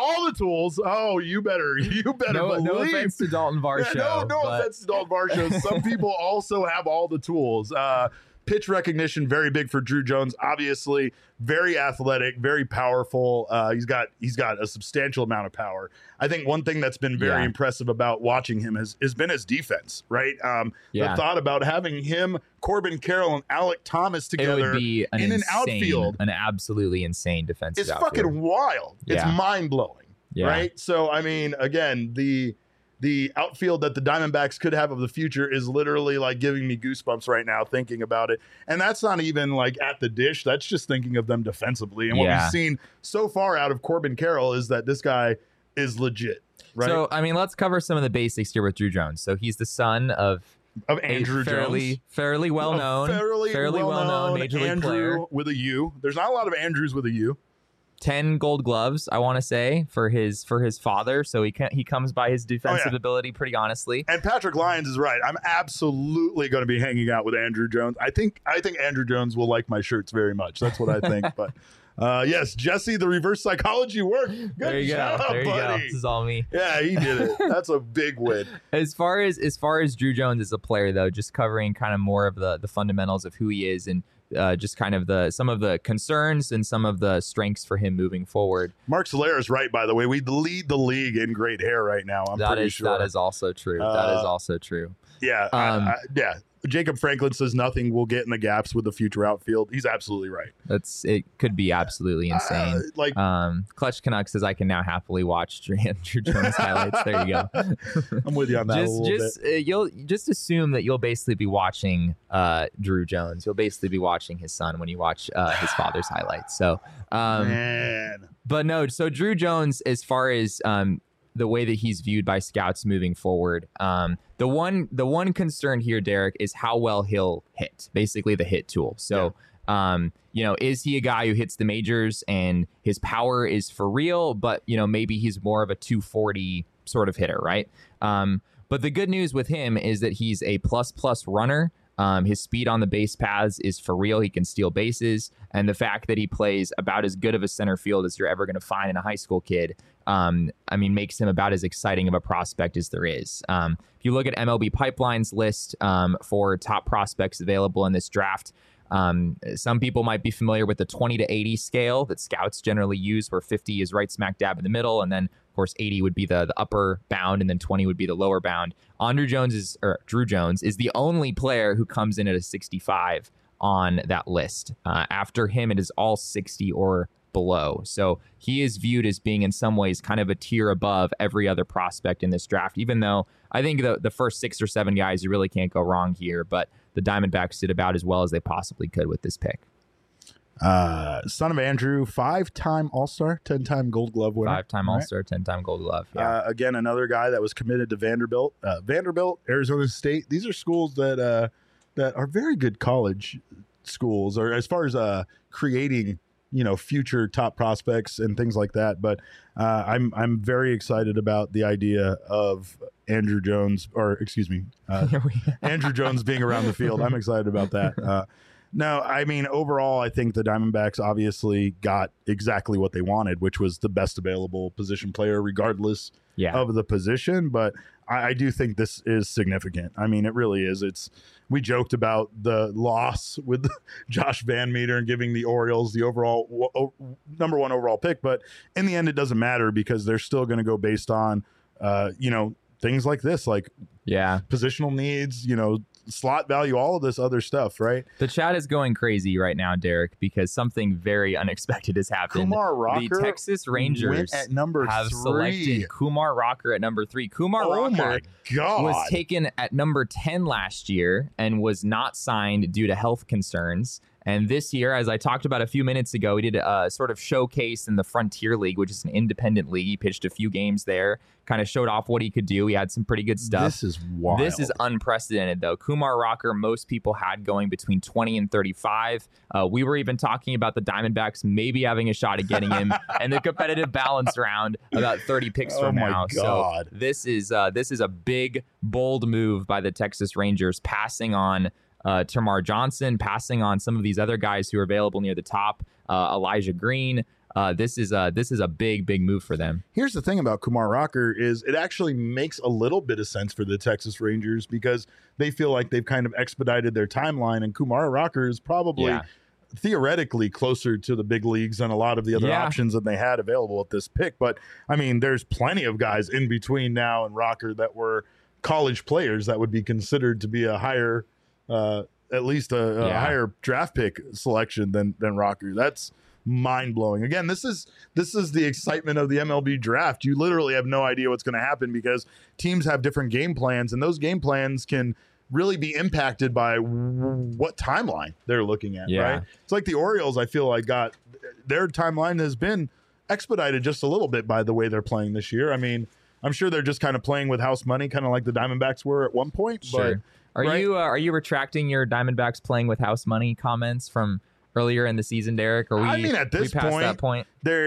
Oh, you better believe. No offense to Dalton Varsho. Yeah, no offense to Dalton Varsho. Some people also have all the tools. Pitch recognition, very big for Drew Jones. Obviously, very athletic, very powerful. He's got a substantial amount of power. I think one thing that's been very impressive about watching him has been his defense, right? The thought about having him, Corbin Carroll, and Alek Thomas together in an outfield. An absolutely insane defensive outfield. It's fucking wild. Yeah. It's mind-blowing, right? So, I mean, again, the outfield that the Diamondbacks could have of the future is literally like giving me goosebumps right now thinking about it. And that's not even like at the dish. That's just thinking of them defensively. And what we've seen so far out of Corbin Carroll is that this guy is legit, right? So, I mean, let's cover some of the basics here with Drew Jones. So he's the son of Andrew Jones. Fairly well-known. Fairly well-known Major League Andrew player. with a U. There's not a lot of Andrews with a U. 10 Gold Gloves, I want to say, for his father. So he comes by his defensive ability pretty honestly. And Patrick Lyons is right. I'm absolutely going to be hanging out with Andrew Jones. I think Andrew Jones will like my shirts very much. That's what I think. But yes, Jesse, the reverse psychology worked. Good job, there you buddy. go. This is all me. Yeah, he did it. That's a big win. As far as Drew Jones as a player, though, just covering kind of more of the fundamentals of who he is and just kind of some of the concerns and some of the strengths for him moving forward. Mark Solera is right, by the way. We lead the league in great hair right now. I'm pretty sure. That is also true. That is also true. Yeah. Yeah. Jacob Franklin says nothing will get in the gaps with the future outfield. He's absolutely right. It could be absolutely insane. Clutch Canucks says I can now happily watch Andrew Jones highlights. There you go. I'm with you on that a little bit. You'll just assume that you'll basically be watching Drew Jones. You'll basically be watching his son when you watch his father's highlights. So, man. But no. So Drew Jones, as far as the way that he's viewed by scouts moving forward. The one concern here, Derek, is how well he'll hit, basically the hit tool. So, is he a guy who hits the majors and his power is for real, but, maybe he's more of a 240 sort of hitter, right? But the good news with him is that he's a plus runner. His speed on the base paths is for real. He can steal bases. And the fact that he plays about as good of a center field as you're ever going to find in a high school kid, makes him about as exciting of a prospect as there is. If you look at MLB Pipeline's list for top prospects available in this draft, some people might be familiar with the 20 to 80 scale that scouts generally use, where 50 is right smack dab in the middle, and then of course 80 would be the upper bound, and then 20 would be the lower bound. Drew Jones is the only player who comes in at a 65 on that list. After him, it is all 60 or below. So he is viewed as being in some ways kind of a tier above every other prospect in this draft, even though I think the first 6 or 7 guys, you really can't go wrong here. But the Diamondbacks did about as well as they possibly could with this pick. Son of Andrew, 5-time All-Star, 10-time Gold Glove winner. 5-time All-Star, 10-time Gold Glove. Yeah. Again, another guy that was committed to Vanderbilt. Vanderbilt, Arizona State. These are schools that are very good college schools, or as far as creating future top prospects and things like that. But I'm very excited about the idea of Andrew Jones, Andrew Jones being around the field. I'm excited about that. No, overall, I think the Diamondbacks obviously got exactly what they wanted, which was the best available position player, regardless of the position. But I do think this is significant. It really is. We joked about the loss with Josh Van Meter and giving the Orioles the overall number 1 overall pick. But in the end, it doesn't matter because they're still going to go based on, things like this, like positional needs, slot value, all of this other stuff, right? The chat is going crazy right now, Derek, because something very unexpected has happened. Kumar Rocker, the Texas Rangers at number have 3. Selected Kumar Rocker at number 3. Kumar Rocker was taken at number 10 last year and was not signed due to health concerns. And this year, as I talked about a few minutes ago, we did a sort of showcase in the Frontier League, which is an independent league. He pitched a few games there, kind of showed off what he could do. He had some pretty good stuff. This is wild. This is unprecedented, though. Kumar Rocker, most people had going between 20 and 35. We were even talking about the Diamondbacks maybe having a shot at getting him and the competitive balance round about 30 picks from now. God. So this is a big, bold move by the Texas Rangers, passing on Termarr Johnson, passing on some of these other guys who are available near the top, Elijah Green. This is a big move for them. Here's the thing about Kumar Rocker is it actually makes a little bit of sense for the Texas Rangers because they feel like they've kind of expedited their timeline, and Kumar Rocker is probably theoretically closer to the big leagues than a lot of the other options that they had available at this pick. But there's plenty of guys in between now and Rocker that were college players that would be considered to be a higher at least a higher draft pick selection than Rocker. That's mind-blowing. Again, this is the excitement of the MLB draft. You literally have no idea what's going to happen because teams have different game plans, and those game plans can really be impacted by what timeline they're looking at, right? It's like the Orioles, I feel like, got their timeline has been expedited just a little bit by the way they're playing this year. I'm sure they're just kind of playing with house money, kind of like the Diamondbacks were at one point. Sure. But Are you retracting your Diamondbacks playing with house money comments from earlier in the season, Derek? Or at this point,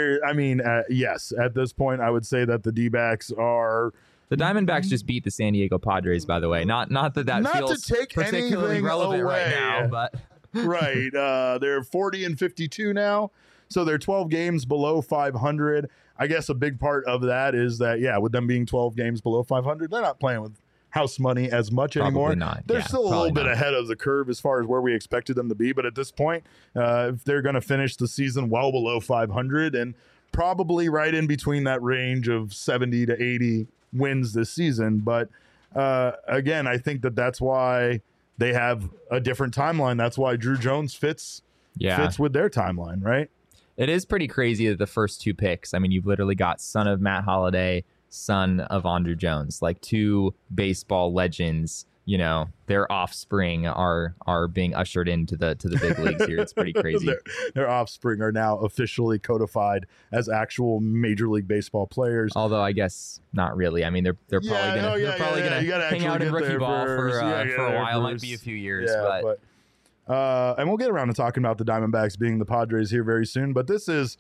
yes, at this point, I would say that the D-backs are. The Diamondbacks just beat the San Diego Padres, by the way. Not that feels to take particularly relevant away. right now, but right. They're 40-52 now, so they're 12 games below 500. I guess a big part of that is that, with them being 12 games below 500, they're not playing with house money as much anymore. Not. They're still a little bit ahead of the curve as far as where we expected them to be, but at this point, if they're going to finish the season well below 500 and probably right in between that range of 70 to 80 wins this season. But again, I think that's why they have a different timeline. That's why Drew Jones fits with their timeline, right? It is pretty crazy that the first two picks, I mean, you've literally got son of Matt Holliday, son of Andruw Jones, like two baseball legends. Their offspring are being ushered into the big leagues here. It's pretty crazy. Their offspring are now officially codified as actual Major League Baseball players. Although I guess not really. I mean, they're probably gonna hang out in rookie ball for a while. Might be a few years, but and we'll get around to talking about the Diamondbacks being the Padres here very soon. But this is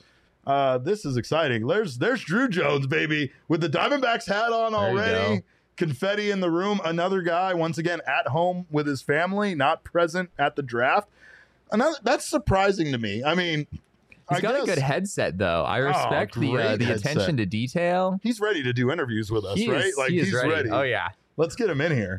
exciting. There's Drew Jones, baby, with the Diamondbacks hat on already. Confetti in the room. Another guy, once again, at home with his family, not present at the draft. That's surprising to me. I mean, he's got a good headset, though. I respect the attention to detail. He's ready to do interviews with us, right? He's ready. Oh, yeah. Let's get him in here.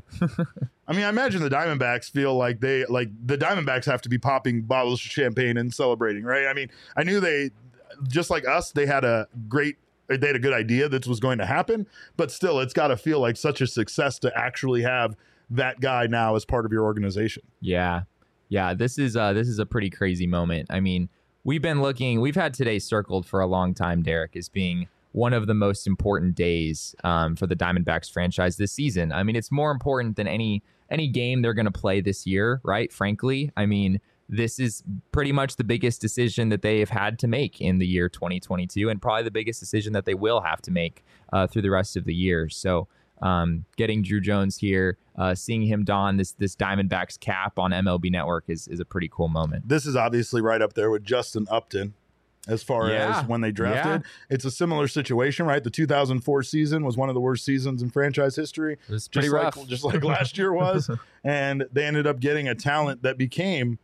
I mean, I imagine the Diamondbacks feel like the Diamondbacks have to be popping bottles of champagne and celebrating, right? I mean, I knew they, just like us, they had a good idea this was going to happen, but still, it's got to feel like such a success to actually have that guy now as part of your organization. Yeah. This is a pretty crazy moment. I mean, we've had today circled for a long time, Derek, as being one of the most important days for the Diamondbacks franchise this season. I mean, it's more important than any game they're going to play this year, right? Frankly, I mean, this is pretty much the biggest decision that they have had to make in the year 2022, and probably the biggest decision that they will have to make through the rest of the year. So getting Drew Jones here, seeing him don this Diamondbacks cap on MLB Network is a pretty cool moment. This is obviously right up there with Justin Upton as far as when they drafted. It's a similar situation, right? The 2004 season was one of the worst seasons in franchise history. It was pretty rough. Just like last year was. And they ended up getting a talent that became,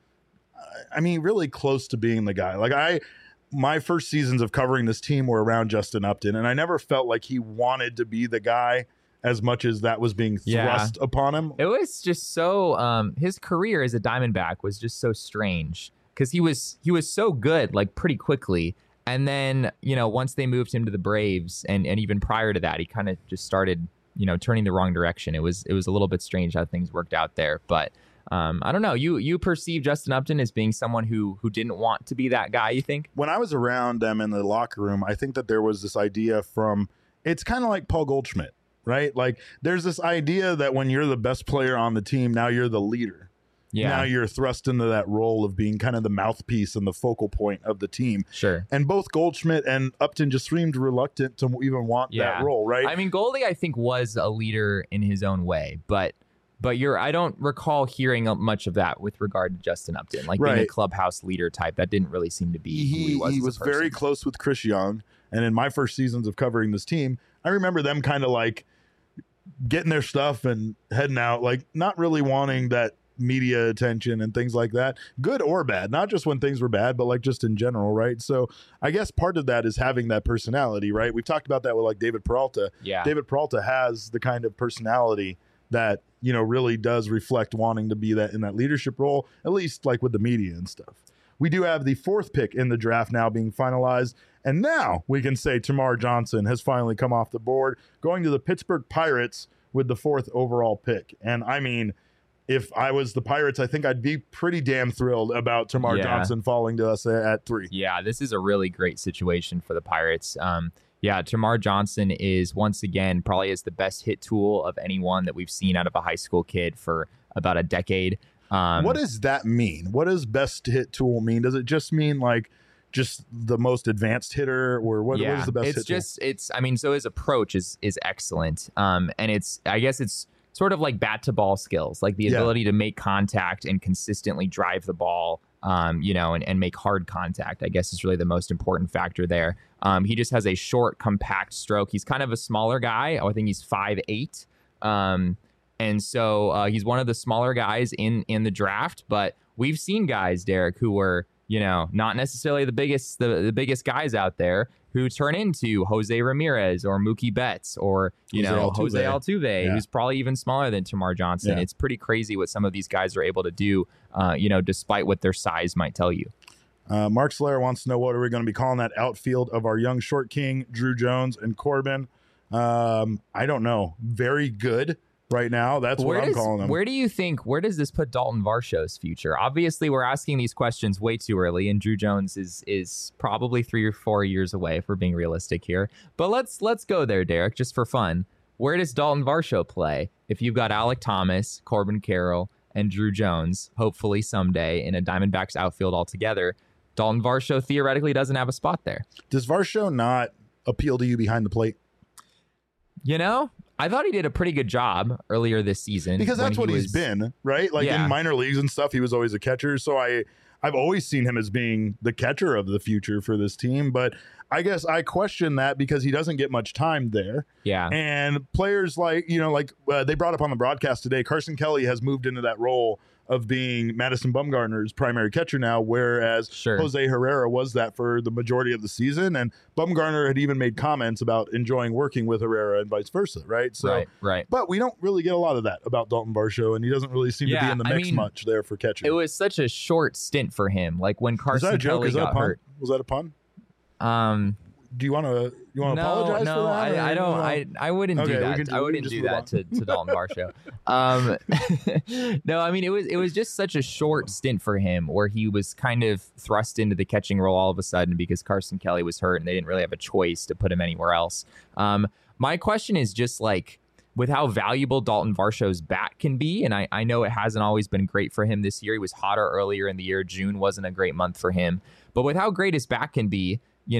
I mean, really close to being the guy. Like my first seasons of covering this team were around Justin Upton, and I never felt like he wanted to be the guy as much as that was being thrust upon him. It was just so, his career as a Diamondback was just so strange because he was so good, like pretty quickly. And then, once they moved him to the Braves and even prior to that, he kind of just started, turning the wrong direction. It was a little bit strange how things worked out there, but I don't know. You perceive Justin Upton as being someone who didn't want to be that guy, you think? When I was around them in the locker room, I think that there was this idea it's kind of like Paul Goldschmidt, right? Like there's this idea that when you're the best player on the team, now you're the leader. Yeah. Now you're thrust into that role of being kind of the mouthpiece and the focal point of the team. Sure. And both Goldschmidt and Upton just seemed reluctant to even want that role, right? I mean, Goldie, I think, was a leader in his own way, but I don't recall hearing much of that with regard to Justin Upton, like being a clubhouse leader type. That didn't really seem to be who he was very close with Chris Young. And in my first seasons of covering this team, I remember them kind of like getting their stuff and heading out, like not really wanting that media attention and things like that, good or bad, not just when things were bad, but like just in general, right? So I guess part of that is having that personality, right? We've talked about that with like David Peralta. Yeah. David Peralta has the kind of personality that, really does reflect wanting to be that in that leadership role, at least like with the media and stuff. We do have the fourth pick in the draft now being finalized. And now we can say Termarr Johnson has finally come off the board, going to the Pittsburgh Pirates with the 4th overall pick. And I mean, if I was the Pirates, I think I'd be pretty damn thrilled about Termarr Johnson falling to us at 3. Yeah, this is a really great situation for the Pirates. Termarr Johnson is, once again, probably is the best hit tool of anyone that we've seen out of a high school kid for about a decade. What does that mean? What does best hit tool mean? Does it just mean like just the most advanced hitter, or what is the best hit tool? So his approach is excellent. And I guess it's sort of like bat to ball skills, like the ability to make contact and consistently drive the ball and make hard contact, I guess, is really the most important factor there. He just has a short, compact stroke. He's kind of a smaller guy. I think he's 5'8". And so he's one of the smaller guys in the draft. But we've seen guys, Derek, who were, not necessarily the biggest guys out there, who turn into Jose Ramirez or Mookie Betts or, Jose Altuve, who's probably even smaller than Termarr Johnson. Yeah. It's pretty crazy what some of these guys are able to do, despite what their size might tell you. Mark Slayer wants to know, what are we going to be calling that outfield of our young short king, Drew Jones and Corbin? I don't know. Very good. Right now, that's what I'm calling them. Where does this put Dalton Varsho's future? Obviously, we're asking these questions way too early, and Drew Jones is probably 3 or 4 years away, if we're being realistic here. But let's go there, Derek, just for fun. Where does Dalton Varsho play if you've got Alek Thomas, Corbin Carroll, and Drew Jones, hopefully someday, in a Diamondbacks outfield altogether? Dalton Varsho theoretically doesn't have a spot there. Does Varsho not appeal to you behind the plate? I thought he did a pretty good job earlier this season. Because that's what he's been, right? Like in minor leagues and stuff, he was always a catcher. So I've always seen him as being the catcher of the future for this team. But I guess I question that because he doesn't get much time there. Yeah. And players like, they brought up on the broadcast today, Carson Kelly has moved into that role of being Madison Bumgarner's primary catcher now, whereas Jose Herrera was that for the majority of the season. And Bumgarner had even made comments about enjoying working with Herrera and vice versa, right? So, right. But we don't really get a lot of that about Dalton Varsho, and he doesn't really seem to be in the mix much there for catching. It was such a short stint for him. Like when Carson Kelly got hurt. Was that a pun? Do you want to apologize for that? No, I don't. I wouldn't do that. I wouldn't do that to Dalton Varsho. No, I mean it was just such a short stint for him where he was kind of thrust into the catching role all of a sudden because Carson Kelly was hurt and they didn't really have a choice to put him anywhere else. My question is just like, with how valuable Dalton Varsho's bat can be, and I know it hasn't always been great for him this year. He was hotter earlier in the year. June wasn't a great month for him. But with how great his bat can be,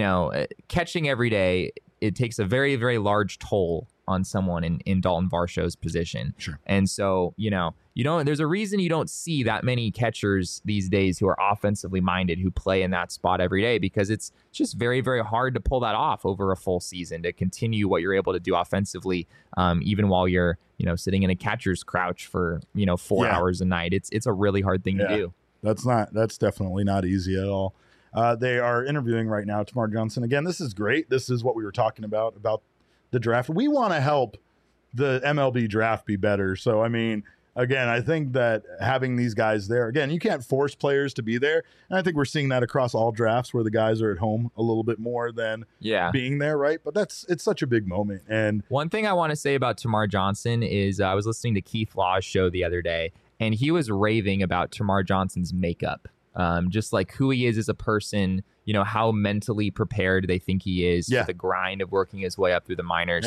catching every day, it takes a very, very large toll on someone in Dalton Varsho's position. Sure. And so, there's a reason you don't see that many catchers these days who are offensively minded who play in that spot every day, because it's just very, very hard to pull that off over a full season, to continue what you're able to do offensively, even while you're, sitting in a catcher's crouch for, 4 hours a night. It's a really hard thing to do. That's definitely not easy at all. They are interviewing right now Termarr Johnson. Again, this is great. This is what we were talking about the draft. We want to help the MLB draft be better. So, I mean, again, I think that having these guys there, again, you can't force players to be there. And I think we're seeing that across all drafts where the guys are at home a little bit more than being there, right? But it's such a big moment. And one thing I want to say about Termarr Johnson is I was listening to Keith Law's show the other day, and he was raving about Termarr Johnson's makeup. Just like who he is as a person, how mentally prepared they think he is for the grind of working his way up through the minors.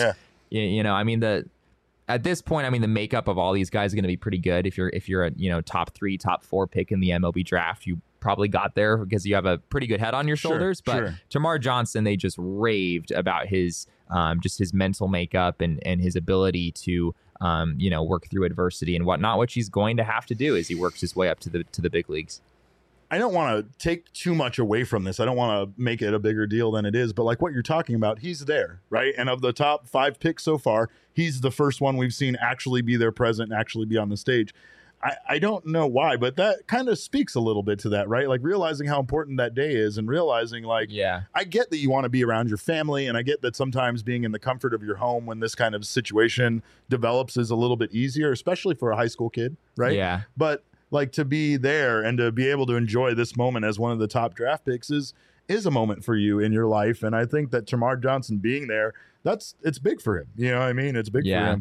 I mean, at this point, the makeup of all these guys is going to be pretty good. If you're a top 3, top 4 pick in the MLB draft, you probably got there because you have a pretty good head on your shoulders. But Termarr Johnson, they just raved about his just his mental makeup and his ability to work through adversity and whatnot, which he's going to have to do as he works his way up to the big leagues. I don't want to take too much away from this. I don't want to make it a bigger deal than it is. But like what you're talking about, he's there, right? And of the top 5 picks so far, he's the first one we've seen actually be there present and actually be on the stage. I don't know why, but that kind of speaks a little bit to that, right? Like realizing how important that day is and realizing I get that you want to be around your family, and I get that sometimes being in the comfort of your home when this kind of situation develops is a little bit easier, especially for a high school kid, right? Yeah. But like to be there and to be able to enjoy this moment as one of the top draft picks is a moment for you in your life. And I think that Termarr Johnson being there, it's big for him. You know what I mean? It's big for him.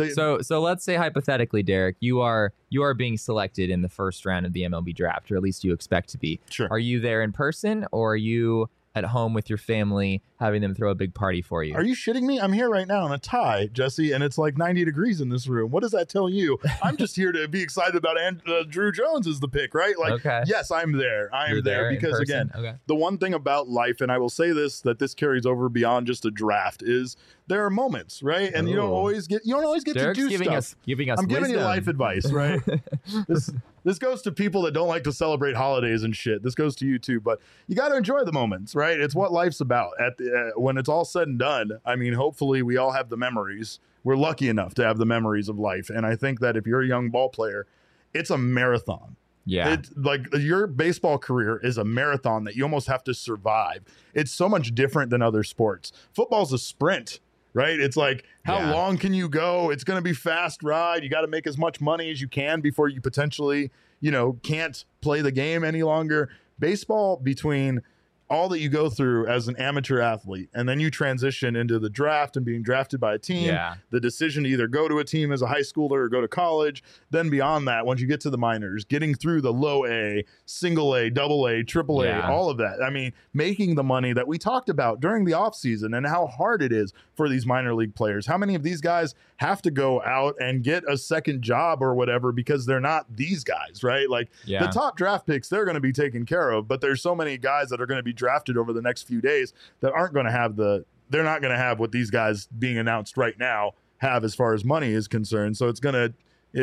So let's say hypothetically, Derek, you are being selected in the first round of the MLB draft, or at least you expect to be. Sure. Are you there in person, or are you at home with your family having them throw a big party for you? Are you shitting me? I'm here right now in a tie, Jesse, and it's like 90 degrees in this room. What does that tell you? I'm just here to be excited about Drew Jones as the pick, right? Like, yes, I'm there. I'm there because, again, the one thing about life, and I will say this, that this carries over beyond just a draft, is there are moments, right? And you don't always get Derek's to do giving stuff. Us giving us I'm wisdom. giving you life advice, right? this goes to people that don't like to celebrate holidays and shit. This goes to you too, but you got to enjoy the moments, right? It's what life's about. When it's all said and done, I mean, hopefully we all have the memories. We're lucky enough to have the memories of life. And I think that if you're a young ball player, it's a marathon. Yeah. It's like your baseball career is a marathon that you almost have to survive. It's so much different than other sports. Football's a sprint, right? It's like, how long can you go? It's going to be fast ride. You got to make as much money as you can before you potentially, can't play the game any longer. Baseball, between all that you go through as an amateur athlete, and then you transition into the draft and being drafted by a team, the decision to either go to a team as a high schooler or go to college, then beyond that, once you get to the minors, getting through the low A, single A, double A, triple A, all of that. I mean, making the money that we talked about during the offseason and how hard it is for these minor league players. How many of these guys have to go out and get a second job or whatever because they're not these guys, right? Like the top draft picks, they're going to be taken care of, but there's so many guys that are going to be drafted over the next few days that aren't going to have they're not going to have what these guys being announced right now have as far as money is concerned. So it's going to,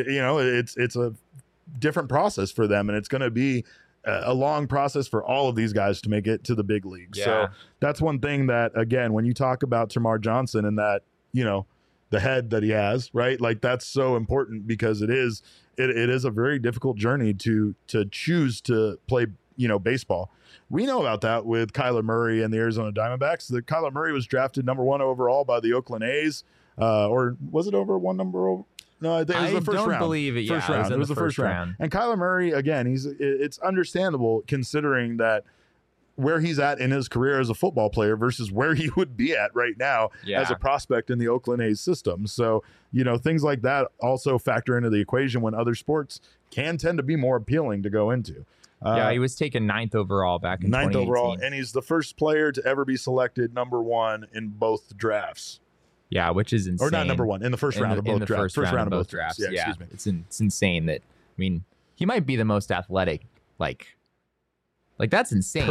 it's a different process for them, and it's going to be a long process for all of these guys to make it to the big leagues. So that's one thing that, again, when you talk about Termarr Johnson and that, the head that he has, right? Like that's so important because it is a very difficult journey to choose to play, baseball. We know about that with Kyler Murray and the Arizona Diamondbacks. That Kyler Murray was drafted number 1 overall by the Oakland A's, or was it over one number over? No, I think it was the first round. I don't believe it. First round. It was the first round. And Kyler Murray, again, it's understandable considering that where he's at in his career as a football player versus where he would be at right now as a prospect in the Oakland A's system. So, things like that also factor into the equation when other sports can tend to be more appealing to go into. He was taken 9th overall back in 9th 2018. overall, and he's the first player to ever be selected number 1 in both drafts. Yeah, which is insane. Or not number 1, in the first round of both drafts. First round of both drafts. Yeah, excuse me. It's insane that, he might be the most athletic, like that's insane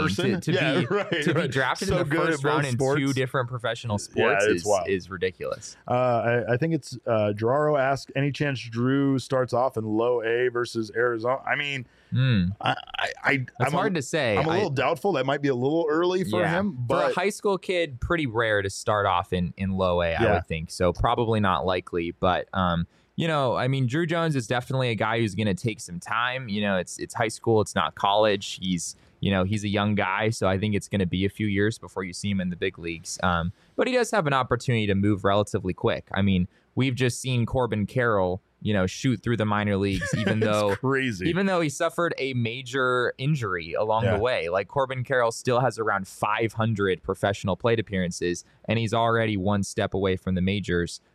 to be drafted in the first round in 2 different professional sports is ridiculous. I think it's Gerardo asked, any chance Drew starts off in low A versus Arizona? I mean, it's hard to say. I'm a little doubtful. That might be a little early for him. But for a high school kid, pretty rare to start off in low A, I would think. So probably not likely. But Drew Jones is definitely a guy who's going to take some time. It's high school. It's not college. He's a young guy, so I think it's going to be a few years before you see him in the big leagues. But he does have an opportunity to move relatively quick. I mean, we've just seen Corbin Carroll, shoot through the minor leagues, even though he suffered a major injury along the way. Like Corbin Carroll still has around 500 professional plate appearances, and he's already one step away from the majors.